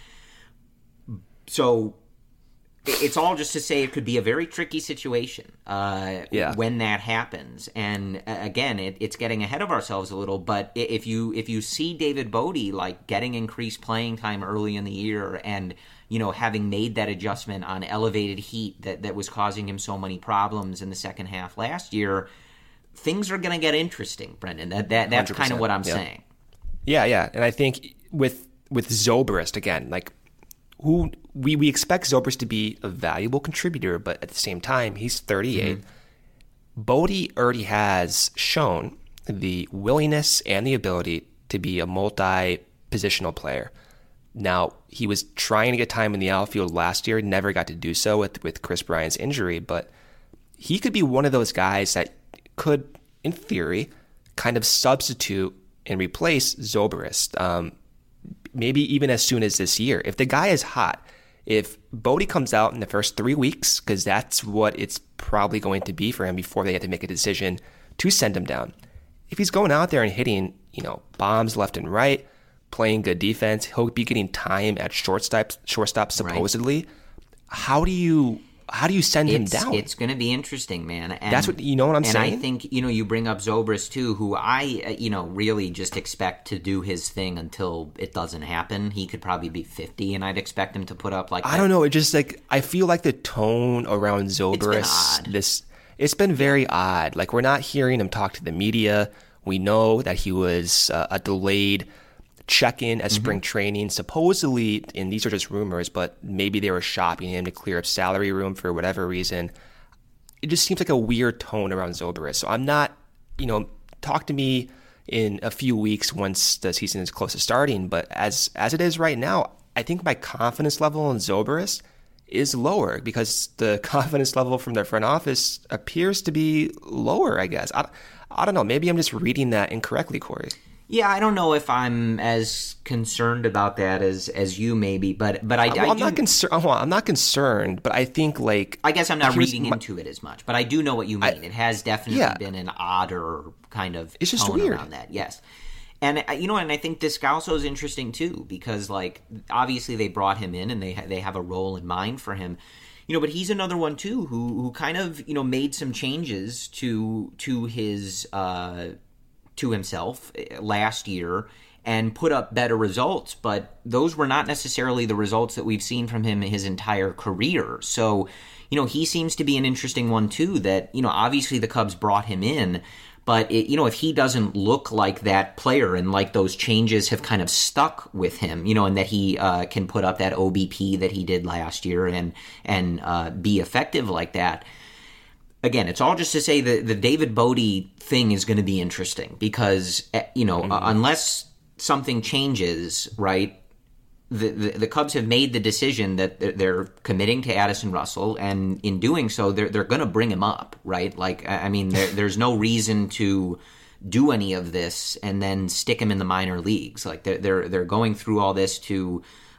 So it's all just to say it could be a very tricky situation when that happens. And again, it's getting ahead of ourselves a little. But if you see David Bodie getting increased playing time early in the year, and having made that adjustment on elevated heat that was causing him so many problems in the second half last year, things are going to get interesting, Brendan. That's kind of what I'm saying. Yeah, and I think with Zobrist again, who we expect Zobrist to be a valuable contributor, but at the same time, he's 38. Bodie already has shown the willingness and the ability to be a multi-positional player. Now, he was trying to get time in the outfield last year, never got to do so with Chris Bryant's injury, but he could be one of those guys that could, in theory, kind of substitute and replace Zobrist. Maybe even as soon as this year. If the guy is hot, if Bodie comes out in the first 3 weeks, because that's what it's probably going to be for him before they have to make a decision to send him down, if he's going out there and hitting, bombs left and right, playing good defense, he'll be getting time at shortstop supposedly. Right. How do you send him down? It's going to be interesting, man. And that's what what I'm saying. And I think you bring up Zobrist too, who I really just expect to do his thing until it doesn't happen. He could probably be 50, and I'd expect him to put up like I don't know. It just I feel like the tone around Zobrist it's been very odd. Like we're not hearing him talk to the media. We know that he was a delayed check-in at spring training, supposedly, and these are just rumors, but maybe they were shopping him to clear up salary room for whatever reason. It just seems like a weird tone around Zobrist. So I'm not, talk to me in a few weeks once the season is close to starting. But as it is right now, I think my confidence level in Zobrist is lower because the confidence level from their front office appears to be lower, I guess. I don't know. Maybe I'm just reading that incorrectly, Corey. Yeah, I don't know if I'm as concerned about that as you maybe, but I'm not concerned. I'm not concerned, but I think I guess I'm not reading into it as much, but I do know what you mean. It has definitely been an odder kind of it's just tone weird around that. Yes, and and I think Descalso is interesting too because obviously they brought him in and they have a role in mind for him. But he's another one too who kind of made some changes to his. To himself last year and put up better results, but those were not necessarily the results that we've seen from him his entire career. So, he seems to be an interesting one too that, obviously the Cubs brought him in, but if he doesn't look like that player and like those changes have kind of stuck with him, and that he can put up that OBP that he did last year and be effective like that. Again, it's all just to say that the David Bote thing is going to be interesting because, unless something changes, right, the Cubs have made the decision that they're committing to Addison Russell, and in doing so, they're going to bring him up, right? There's no reason to do any of this and then stick him in the minor leagues. They're going through all this to,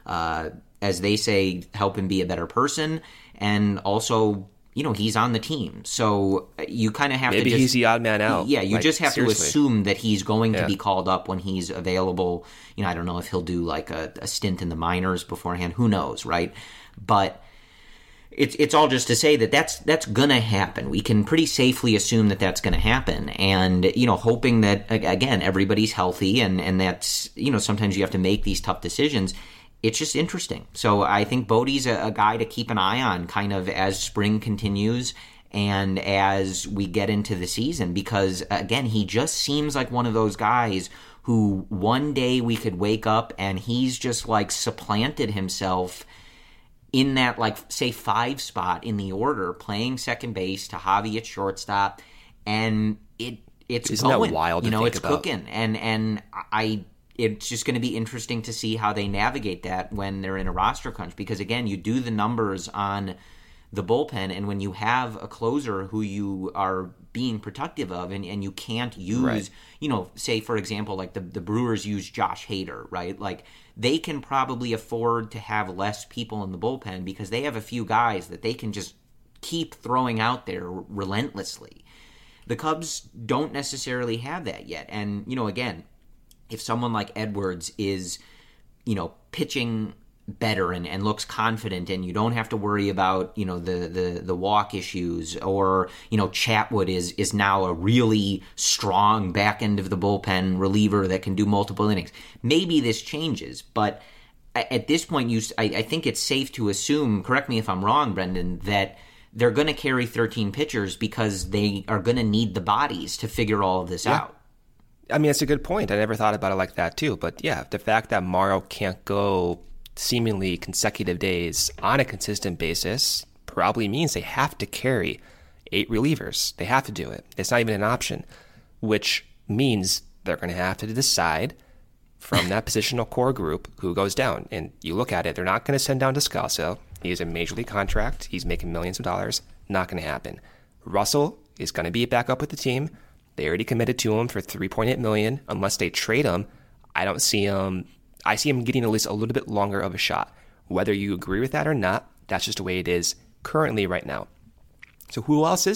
as they say, help him be a better person, and also he's on the team. So you kind of have Maybe to he's the odd man out. Yeah, you just have seriously. to assume that he's going to be called up when he's available. I don't know if he'll do a stint in the minors beforehand. Who knows, right? But it's all just to say that that's going to happen. We can pretty safely assume that that's going to happen. And, hoping that, again, everybody's healthy and that's, sometimes you have to make these tough decisions. It's just interesting. So I think Bote's a guy to keep an eye on kind of as spring continues and as we get into the season because, again, he just seems like one of those guys who one day we could wake up and he's just supplanted himself in that say 5 spot in the order, playing second base to Javi at shortstop, and it's Isn't going. That wild to think it's about? Cooking, and it's just going to be interesting to see how they navigate that when they're in a roster crunch. Because, again, you do the numbers on the bullpen, and when you have a closer who you are being protective of and you can't use, say, for example, the Brewers use Josh Hader, right? They can probably afford to have less people in the bullpen because they have a few guys that they can just keep throwing out there relentlessly. The Cubs don't necessarily have that yet. And, again, if someone like Edwards is, pitching better and looks confident and you don't have to worry about, the walk issues or, Chatwood is now a really strong back end of the bullpen reliever that can do multiple innings. Maybe this changes, but at this point, I think it's safe to assume, correct me if I'm wrong, Brendan, that they're going to carry 13 pitchers because they are going to need the bodies to figure all of this out. I mean, it's a good point. I never thought about it like that, too. But yeah, the fact that Morrow can't go seemingly consecutive days on a consistent basis probably means they have to carry 8 relievers. They have to do it. It's not even an option, which means they're going to have to decide from that positional core group who goes down. And you look at it, they're not going to send down Descalso. He has a major league contract. He's making millions of dollars. Not going to happen. Russell is going to be back up with the team. They already committed to him for $3.8 million. Unless they trade him, I don't see him. I see him getting at least a little bit longer of a shot. Whether you agree with that or not, that's just the way it is currently right now. So who else is there?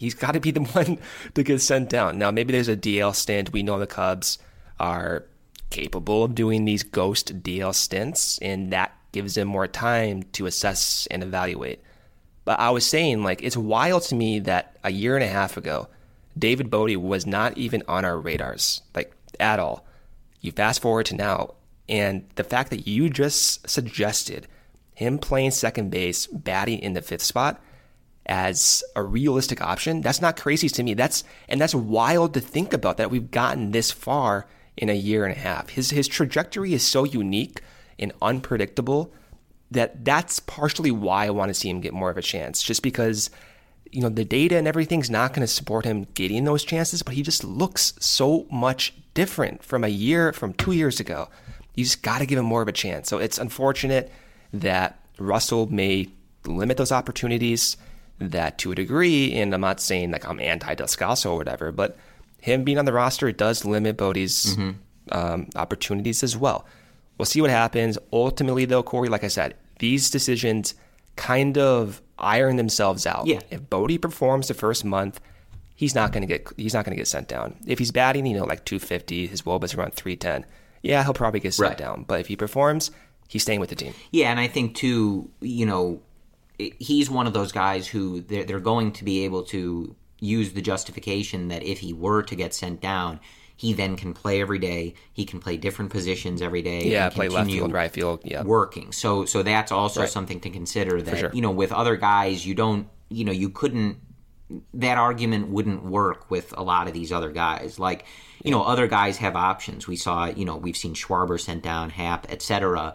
He's got to be the one to get sent down. Now, maybe there's a DL stint. We know the Cubs are capable of doing these ghost DL stints, and that gives him more time to assess and evaluate. But I was saying, like, it's wild to me that a year and a half ago, David Bote was not even on our radars, like, at all. You fast forward to now, and the fact that you just suggested him playing second base, batting in the 5th spot as a realistic option, that's not crazy to me. That's wild to think about, that we've gotten this far in a year and a half. His trajectory is so unique and unpredictable that's partially why I want to see him get more of a chance, just because, you know, the data and everything's not going to support him getting those chances, but he just looks so much different from 2 years ago. You just got to give him more of a chance. So it's unfortunate that Russell may limit those opportunities, that to a degree, and I'm not saying like I'm anti-Descalso or whatever, but him being on the roster, it does limit Bote's opportunities as well. We'll see what happens. Ultimately, though, Corey, like I said, these decisions kind of iron themselves out. Yeah. If Bote performs the first month, he's not going to get sent down. If he's batting, you know, like 250, his WOBA's around 310, yeah, he'll probably get sent down. But if he performs, he's staying with the team. Yeah, and I think too, you know, he's one of those guys who they're going to be able to use the justification that if he were to get sent down, he then can play every day. He can play different positions every day. Yeah, and play left field, right field. Yeah, working. So that's also something to consider. That sure. You know, with other guys, you don't. You know, you couldn't. That argument wouldn't work with a lot of these other guys. Like, you know, other guys have options. We saw. You know, we've seen Schwarber sent down, Happ, etc.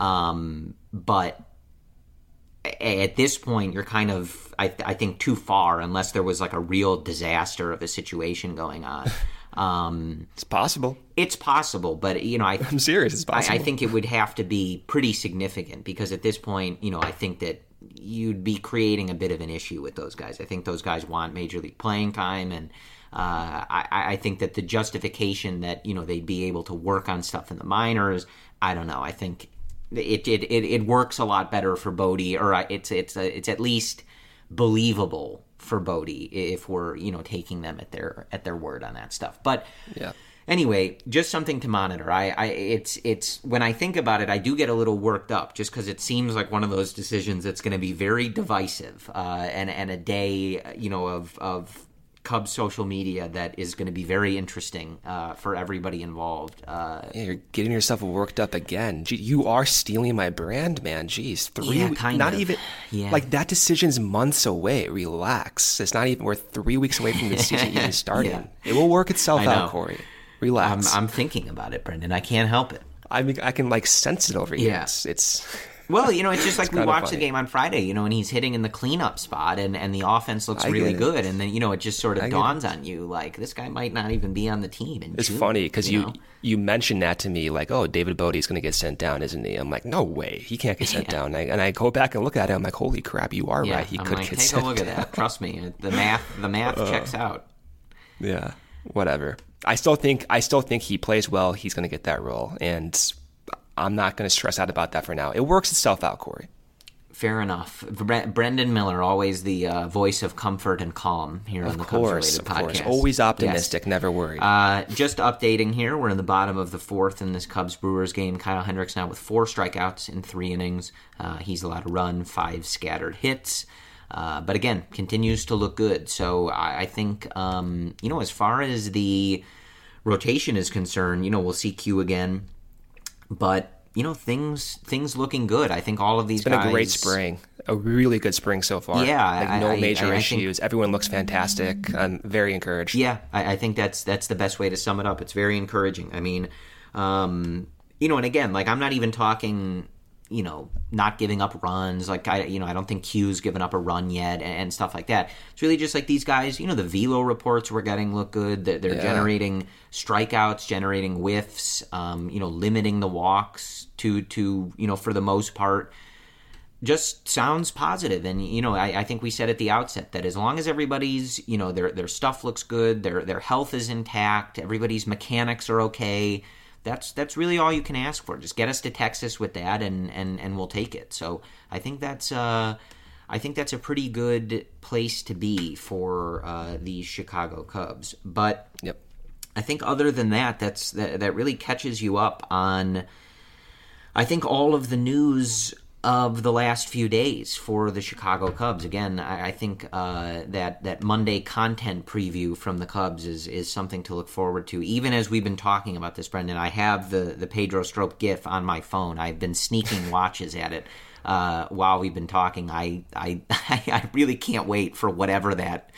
But at this point, you're kind of, I think, too far, unless there was like a real disaster of a situation going on. It's possible. It's possible, but you know, I'm serious. It's possible. I think it would have to be pretty significant, because at this point, you know, I think that you'd be creating a bit of an issue with those guys. I think those guys want major league playing time, and I think that the justification that, you know, they'd be able to work on stuff in the minors, I don't know. I think it works a lot better for Bote, or it's at least believable for Bote if we're, you know, taking them at their word on that stuff. But yeah. Anyway, just something to monitor. It's when I think about it, I do get a little worked up, just because it seems like one of those decisions that's going to be very divisive, and a day, you know, of Cubs social media that is going to be very interesting for everybody involved. Yeah, you're getting yourself worked up again. Gee, you are stealing my brand, man. Jeez, like, that decision's months away. Relax. It's not even, we're 3 weeks away from the season even starting. Yeah. It will work itself out, Corey. Relax. I'm thinking about it, Brendan. I can't help it. I mean, I can like sense it over here. Yeah. It's well, you know, it's just like we watched the game on Friday, you know, and he's hitting in the cleanup spot, and the offense looks really good, and then, you know, it just sort of dawns on you, like, this guy might not even be on the team in It's June, funny, because you know? you mentioned that to me, like, oh, David Bote's going to get sent down, isn't he? I'm like, no way, he can't get sent down. And I go back and look at it, I'm like, holy crap, you are right, he could get sent down. Take a look at that, trust me, the math checks out. Yeah, whatever. I still think he plays well. He's going to get that role, and I'm not going to stress out about that for now. It works itself out, Corey. Fair enough. Brendan Miller, always the voice of comfort and calm here on the Cubs-related podcast. Of course, always optimistic, never worried. Just updating here, we're in the bottom of the 4th in this Cubs-Brewers game. Kyle Hendricks now with 4 strikeouts in 3 innings. He's allowed a run, 5 scattered hits. But again, continues to look good. So I think, you know, as far as the rotation is concerned, you know, we'll see Q again. But, you know, things looking good. I think all of these guys... It's been a great spring. A really good spring so far. Yeah. Like, no major issues. Everyone looks fantastic. I'm very encouraged. Yeah, I think that's the best way to sum it up. It's very encouraging. I mean, you know, and again, like, I'm not even talking... you know, not giving up runs. Like, I don't think Q's given up a run yet and stuff like that. It's really just like these guys, you know, the velo reports we're getting look good. They're generating strikeouts, generating whiffs, you know, limiting the walks to, you know, for the most part, just sounds positive. And, you know, I think we said at the outset that as long as everybody's, you know, their stuff looks good, their health is intact, everybody's mechanics are okay, that's really all you can ask for. Just get us to Texas with that, and we'll take it. So I think that's I think that's a pretty good place to be for these Chicago Cubs. But Yep. I think other than that, that really catches you up on, I think, all of the news of the last few days for the Chicago Cubs. Again, I think that Monday content preview from the Cubs is something to look forward to. Even as we've been talking about this, Brendan, I have the Pedro Strop GIF on my phone. I've been sneaking watches at it while we've been talking. I really can't wait for whatever that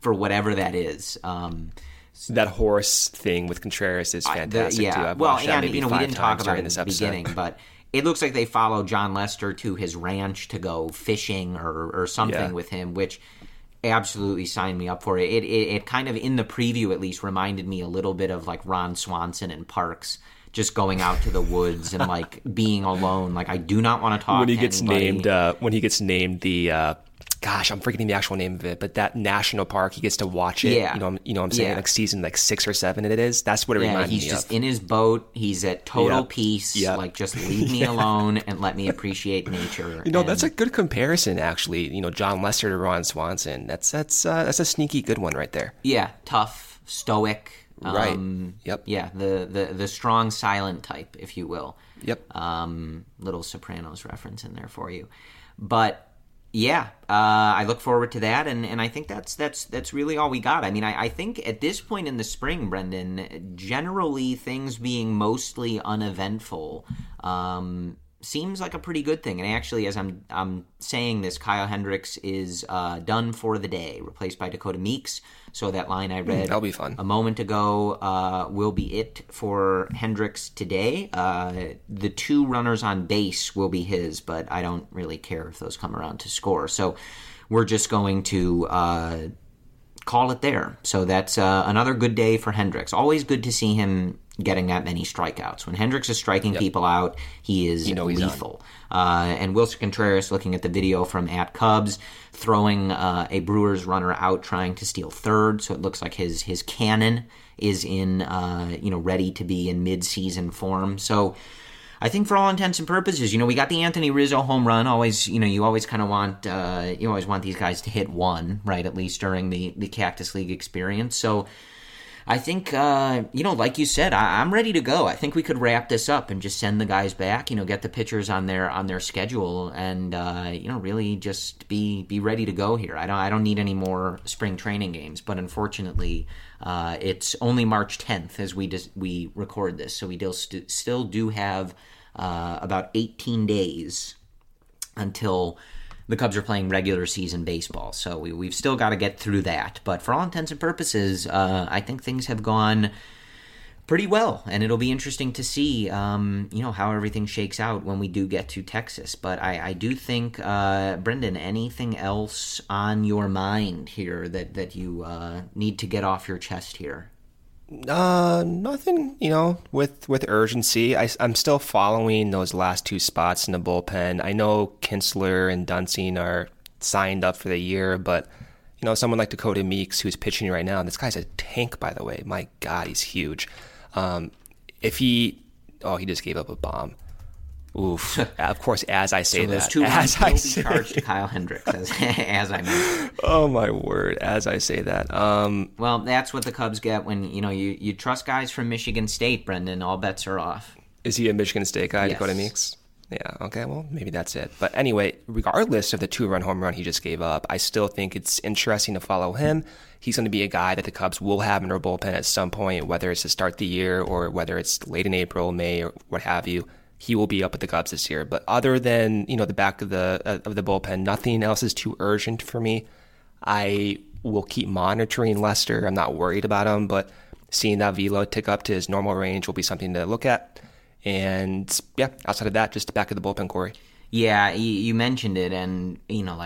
is. That horse thing with Contreras is fantastic too. I've watched that maybe we 5 didn't talk times about during it this in the episode. beginning, but it looks like they follow John Lester to his ranch to go fishing or something with him, which absolutely signed me up for it. It kind of, in the preview at least, reminded me a little bit of like Ron Swanson and Parks, just going out to the woods and like being alone. Like, I do not want to talk when he to gets anybody. when he gets named the gosh, I'm forgetting the actual name of it, but that national park, he gets to watch it. Yeah. You know what I'm saying? Yeah. Like season 6 or 7 it is. That's what it reminded he's me just of. in his boat. He's at total peace. Yep. Like, just leave me alone and let me appreciate nature. That's a good comparison, actually. John Lester to Ron Swanson. That's a sneaky good one right there. Yeah, tough, stoic. Right. Yep. Yeah, the strong, silent type, if you will. Yep. Little Sopranos reference in there for you. But yeah, I look forward to that, and I think that's really all we got. I mean, I think at this point in the spring, Brendan, generally things being mostly uneventful seems like a pretty good thing. And actually, as I'm saying this, Kyle Hendricks is done for the day, replaced by Dakota Meeks. So that line I read that'll be fun. a moment ago will be it for Hendricks today. The 2 runners on base will be his, but I don't really care if those come around to score. So we're just going to call it there. So that's another good day for Hendricks. Always good to see him getting that many strikeouts. When Hendricks is striking people out, he is lethal. And Wilson Contreras, looking at the video from @Cubs, throwing a Brewers runner out trying to steal third, so it looks like his cannon is in ready to be in mid-season form. So I think for all intents and purposes, we got the Anthony Rizzo home run. Always, you always kind of want these guys to hit one, right? At least during the Cactus League experience. So I think, like you said, I'm ready to go. I think we could wrap this up and just send the guys back, get the pitchers on their schedule and, really just be ready to go here. I don't need any more spring training games, but unfortunately, it's only March 10th as we record this. So we still do have about 18 days until the Cubs are playing regular season baseball, so we've still got to get through that. But for all intents and purposes, I think things have gone pretty well, and it'll be interesting to see, how everything shakes out when we do get to Texas. But I do think, Brendan, anything else on your mind here that you need to get off your chest here? Nothing, with urgency. I'm still following those last 2 spots in the bullpen. I know Kinsler and Dunsing are signed up for the year, but, someone like Dakota Meeks, who's pitching right now, this guy's a tank, by the way. My God, he's huge. He just gave up a bomb. Oof. Of course, as I say so those that. 2 as runs will be charged to Kyle Hendricks, as I mentioned. Oh, my word, as I say that. Well, that's what the Cubs get when, you trust guys from Michigan State, Brendan. All bets are off. Is he a Michigan State guy, Yes. Dakota Meeks? Yeah, okay, well, maybe that's it. But anyway, regardless of the 2-run home run he just gave up, I still think it's interesting to follow him. He's going to be a guy that the Cubs will have in their bullpen at some point, whether it's to start the year or whether it's late in April, May, or what have you. He will be up at the Cubs this year. But other than, the back of the bullpen, nothing else is too urgent for me. I will keep monitoring Lester. I'm not worried about him, but seeing that velo tick up to his normal range will be something to look at. And yeah, outside of that, just the back of the bullpen, Corey. Yeah, you mentioned it, and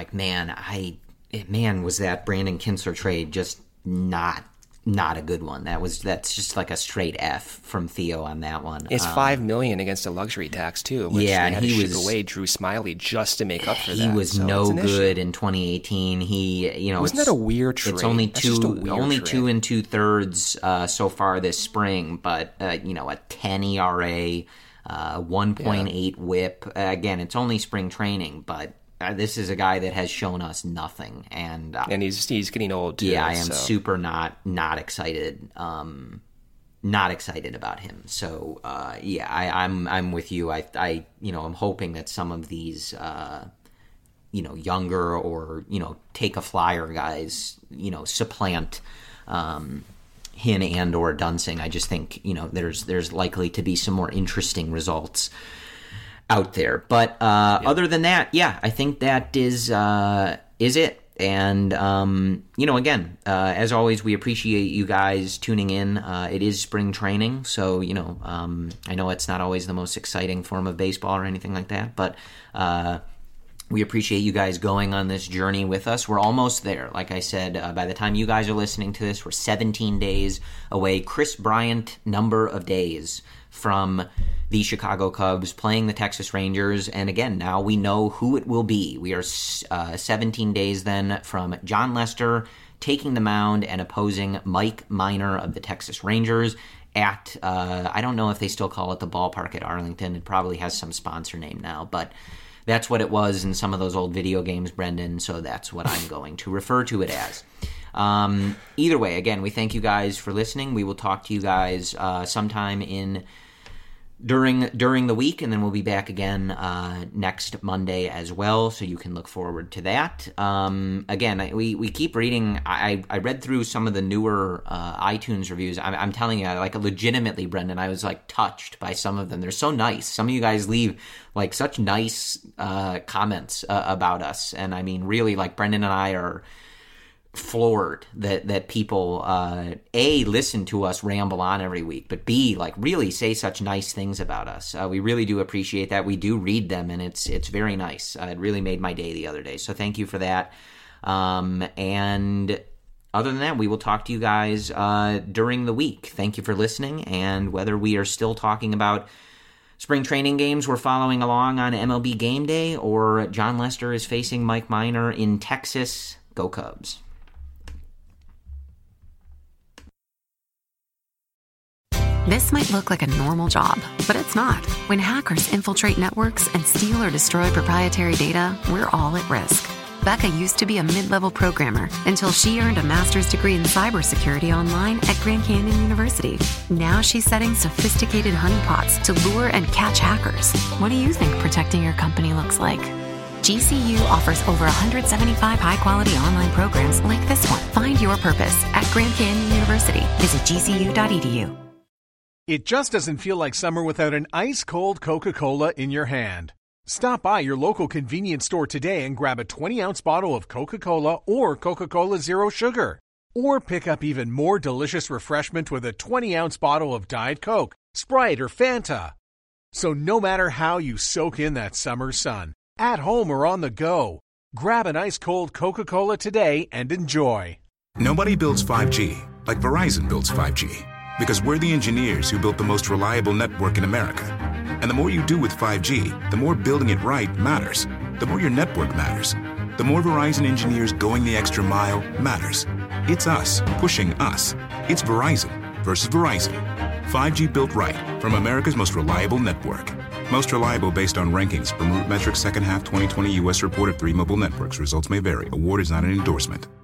was that Brandon Kinsler trade just not a good one. That's just like a straight F from Theo on that one. It's $5 million against a luxury tax too. Which yeah, they had and to ship away Drew Smiley just to make up for that. He was no good in 2018. Wasn't that a weird trade? It's only That's just a weird trade. 2 2/3 so far this spring, but a 10 ERA, 1.8 WHIP. Again, it's only spring training, but this is a guy that has shown us nothing, and he's getting old too. Yeah, I am super not excited. Not excited about him. So I'm with you. I I'm hoping that some of these younger or take a flyer guys supplant Hinn and or Dunsing. I just think there's likely to be some more interesting results out there. But other than that, I think that is it. And again, as always, we appreciate you guys tuning in. It is spring training, so I know it's not always the most exciting form of baseball or anything like that, but we appreciate you guys going on this journey with us. We're almost there. Like I said, by the time you guys are listening to this, we're 17 days away. Kris Bryant number of days from the Chicago Cubs playing the Texas Rangers. And again, now we know who it will be. We are 17 days then from Jon Lester taking the mound and opposing Mike Minor of the Texas Rangers at, I don't know if they still call it the ballpark at Arlington. It probably has some sponsor name now, but that's what it was in some of those old video games, Brendan, so that's what I'm going to refer to it as. Either way, again, we thank you guys for listening. We will talk to you guys sometime during the week, and then we'll be back again next Monday as well, so you can look forward to that. Again, we keep reading. I read through some of the newer iTunes reviews. I'm telling you, legitimately, Brendan, I was touched by some of them. They're so nice. Some of you guys leave such nice comments about us, and I mean, really, Brendan and I are floored that people A, listen to us ramble on every week, but B, really say such nice things about us. We really do appreciate that. We do read them, and it's very nice. It really made my day the other day, so thank you for that. And other than that, we will talk to you guys during the week. Thank you for listening, and whether we are still talking about spring training games we're following along on MLB Game Day, or Jon Lester is facing Mike Minor in Texas, go Cubs. This might look like a normal job, but it's not. When hackers infiltrate networks and steal or destroy proprietary data, we're all at risk. Becca used to be a mid-level programmer until she earned a master's degree in cybersecurity online at Grand Canyon University. Now she's setting sophisticated honeypots to lure and catch hackers. What do you think protecting your company looks like? GCU offers over 175 high-quality online programs like this one. Find your purpose at Grand Canyon University. Visit gcu.edu. It just doesn't feel like summer without an ice-cold Coca-Cola in your hand. Stop by your local convenience store today and grab a 20-ounce bottle of Coca-Cola or Coca-Cola Zero Sugar. Or pick up even more delicious refreshment with a 20-ounce bottle of Diet Coke, Sprite, or Fanta. So no matter how you soak in that summer sun, at home or on the go, grab an ice-cold Coca-Cola today and enjoy. Nobody builds 5G like Verizon builds 5G. Because we're the engineers who built the most reliable network in America. And the more you do with 5G, the more building it right matters. The more your network matters. The more Verizon engineers going the extra mile matters. It's us pushing us. It's Verizon versus Verizon. 5G built right from America's most reliable network. Most reliable based on rankings from RootMetrics second half 2020 U.S. report of 3 mobile networks. Results may vary. Award is not an endorsement.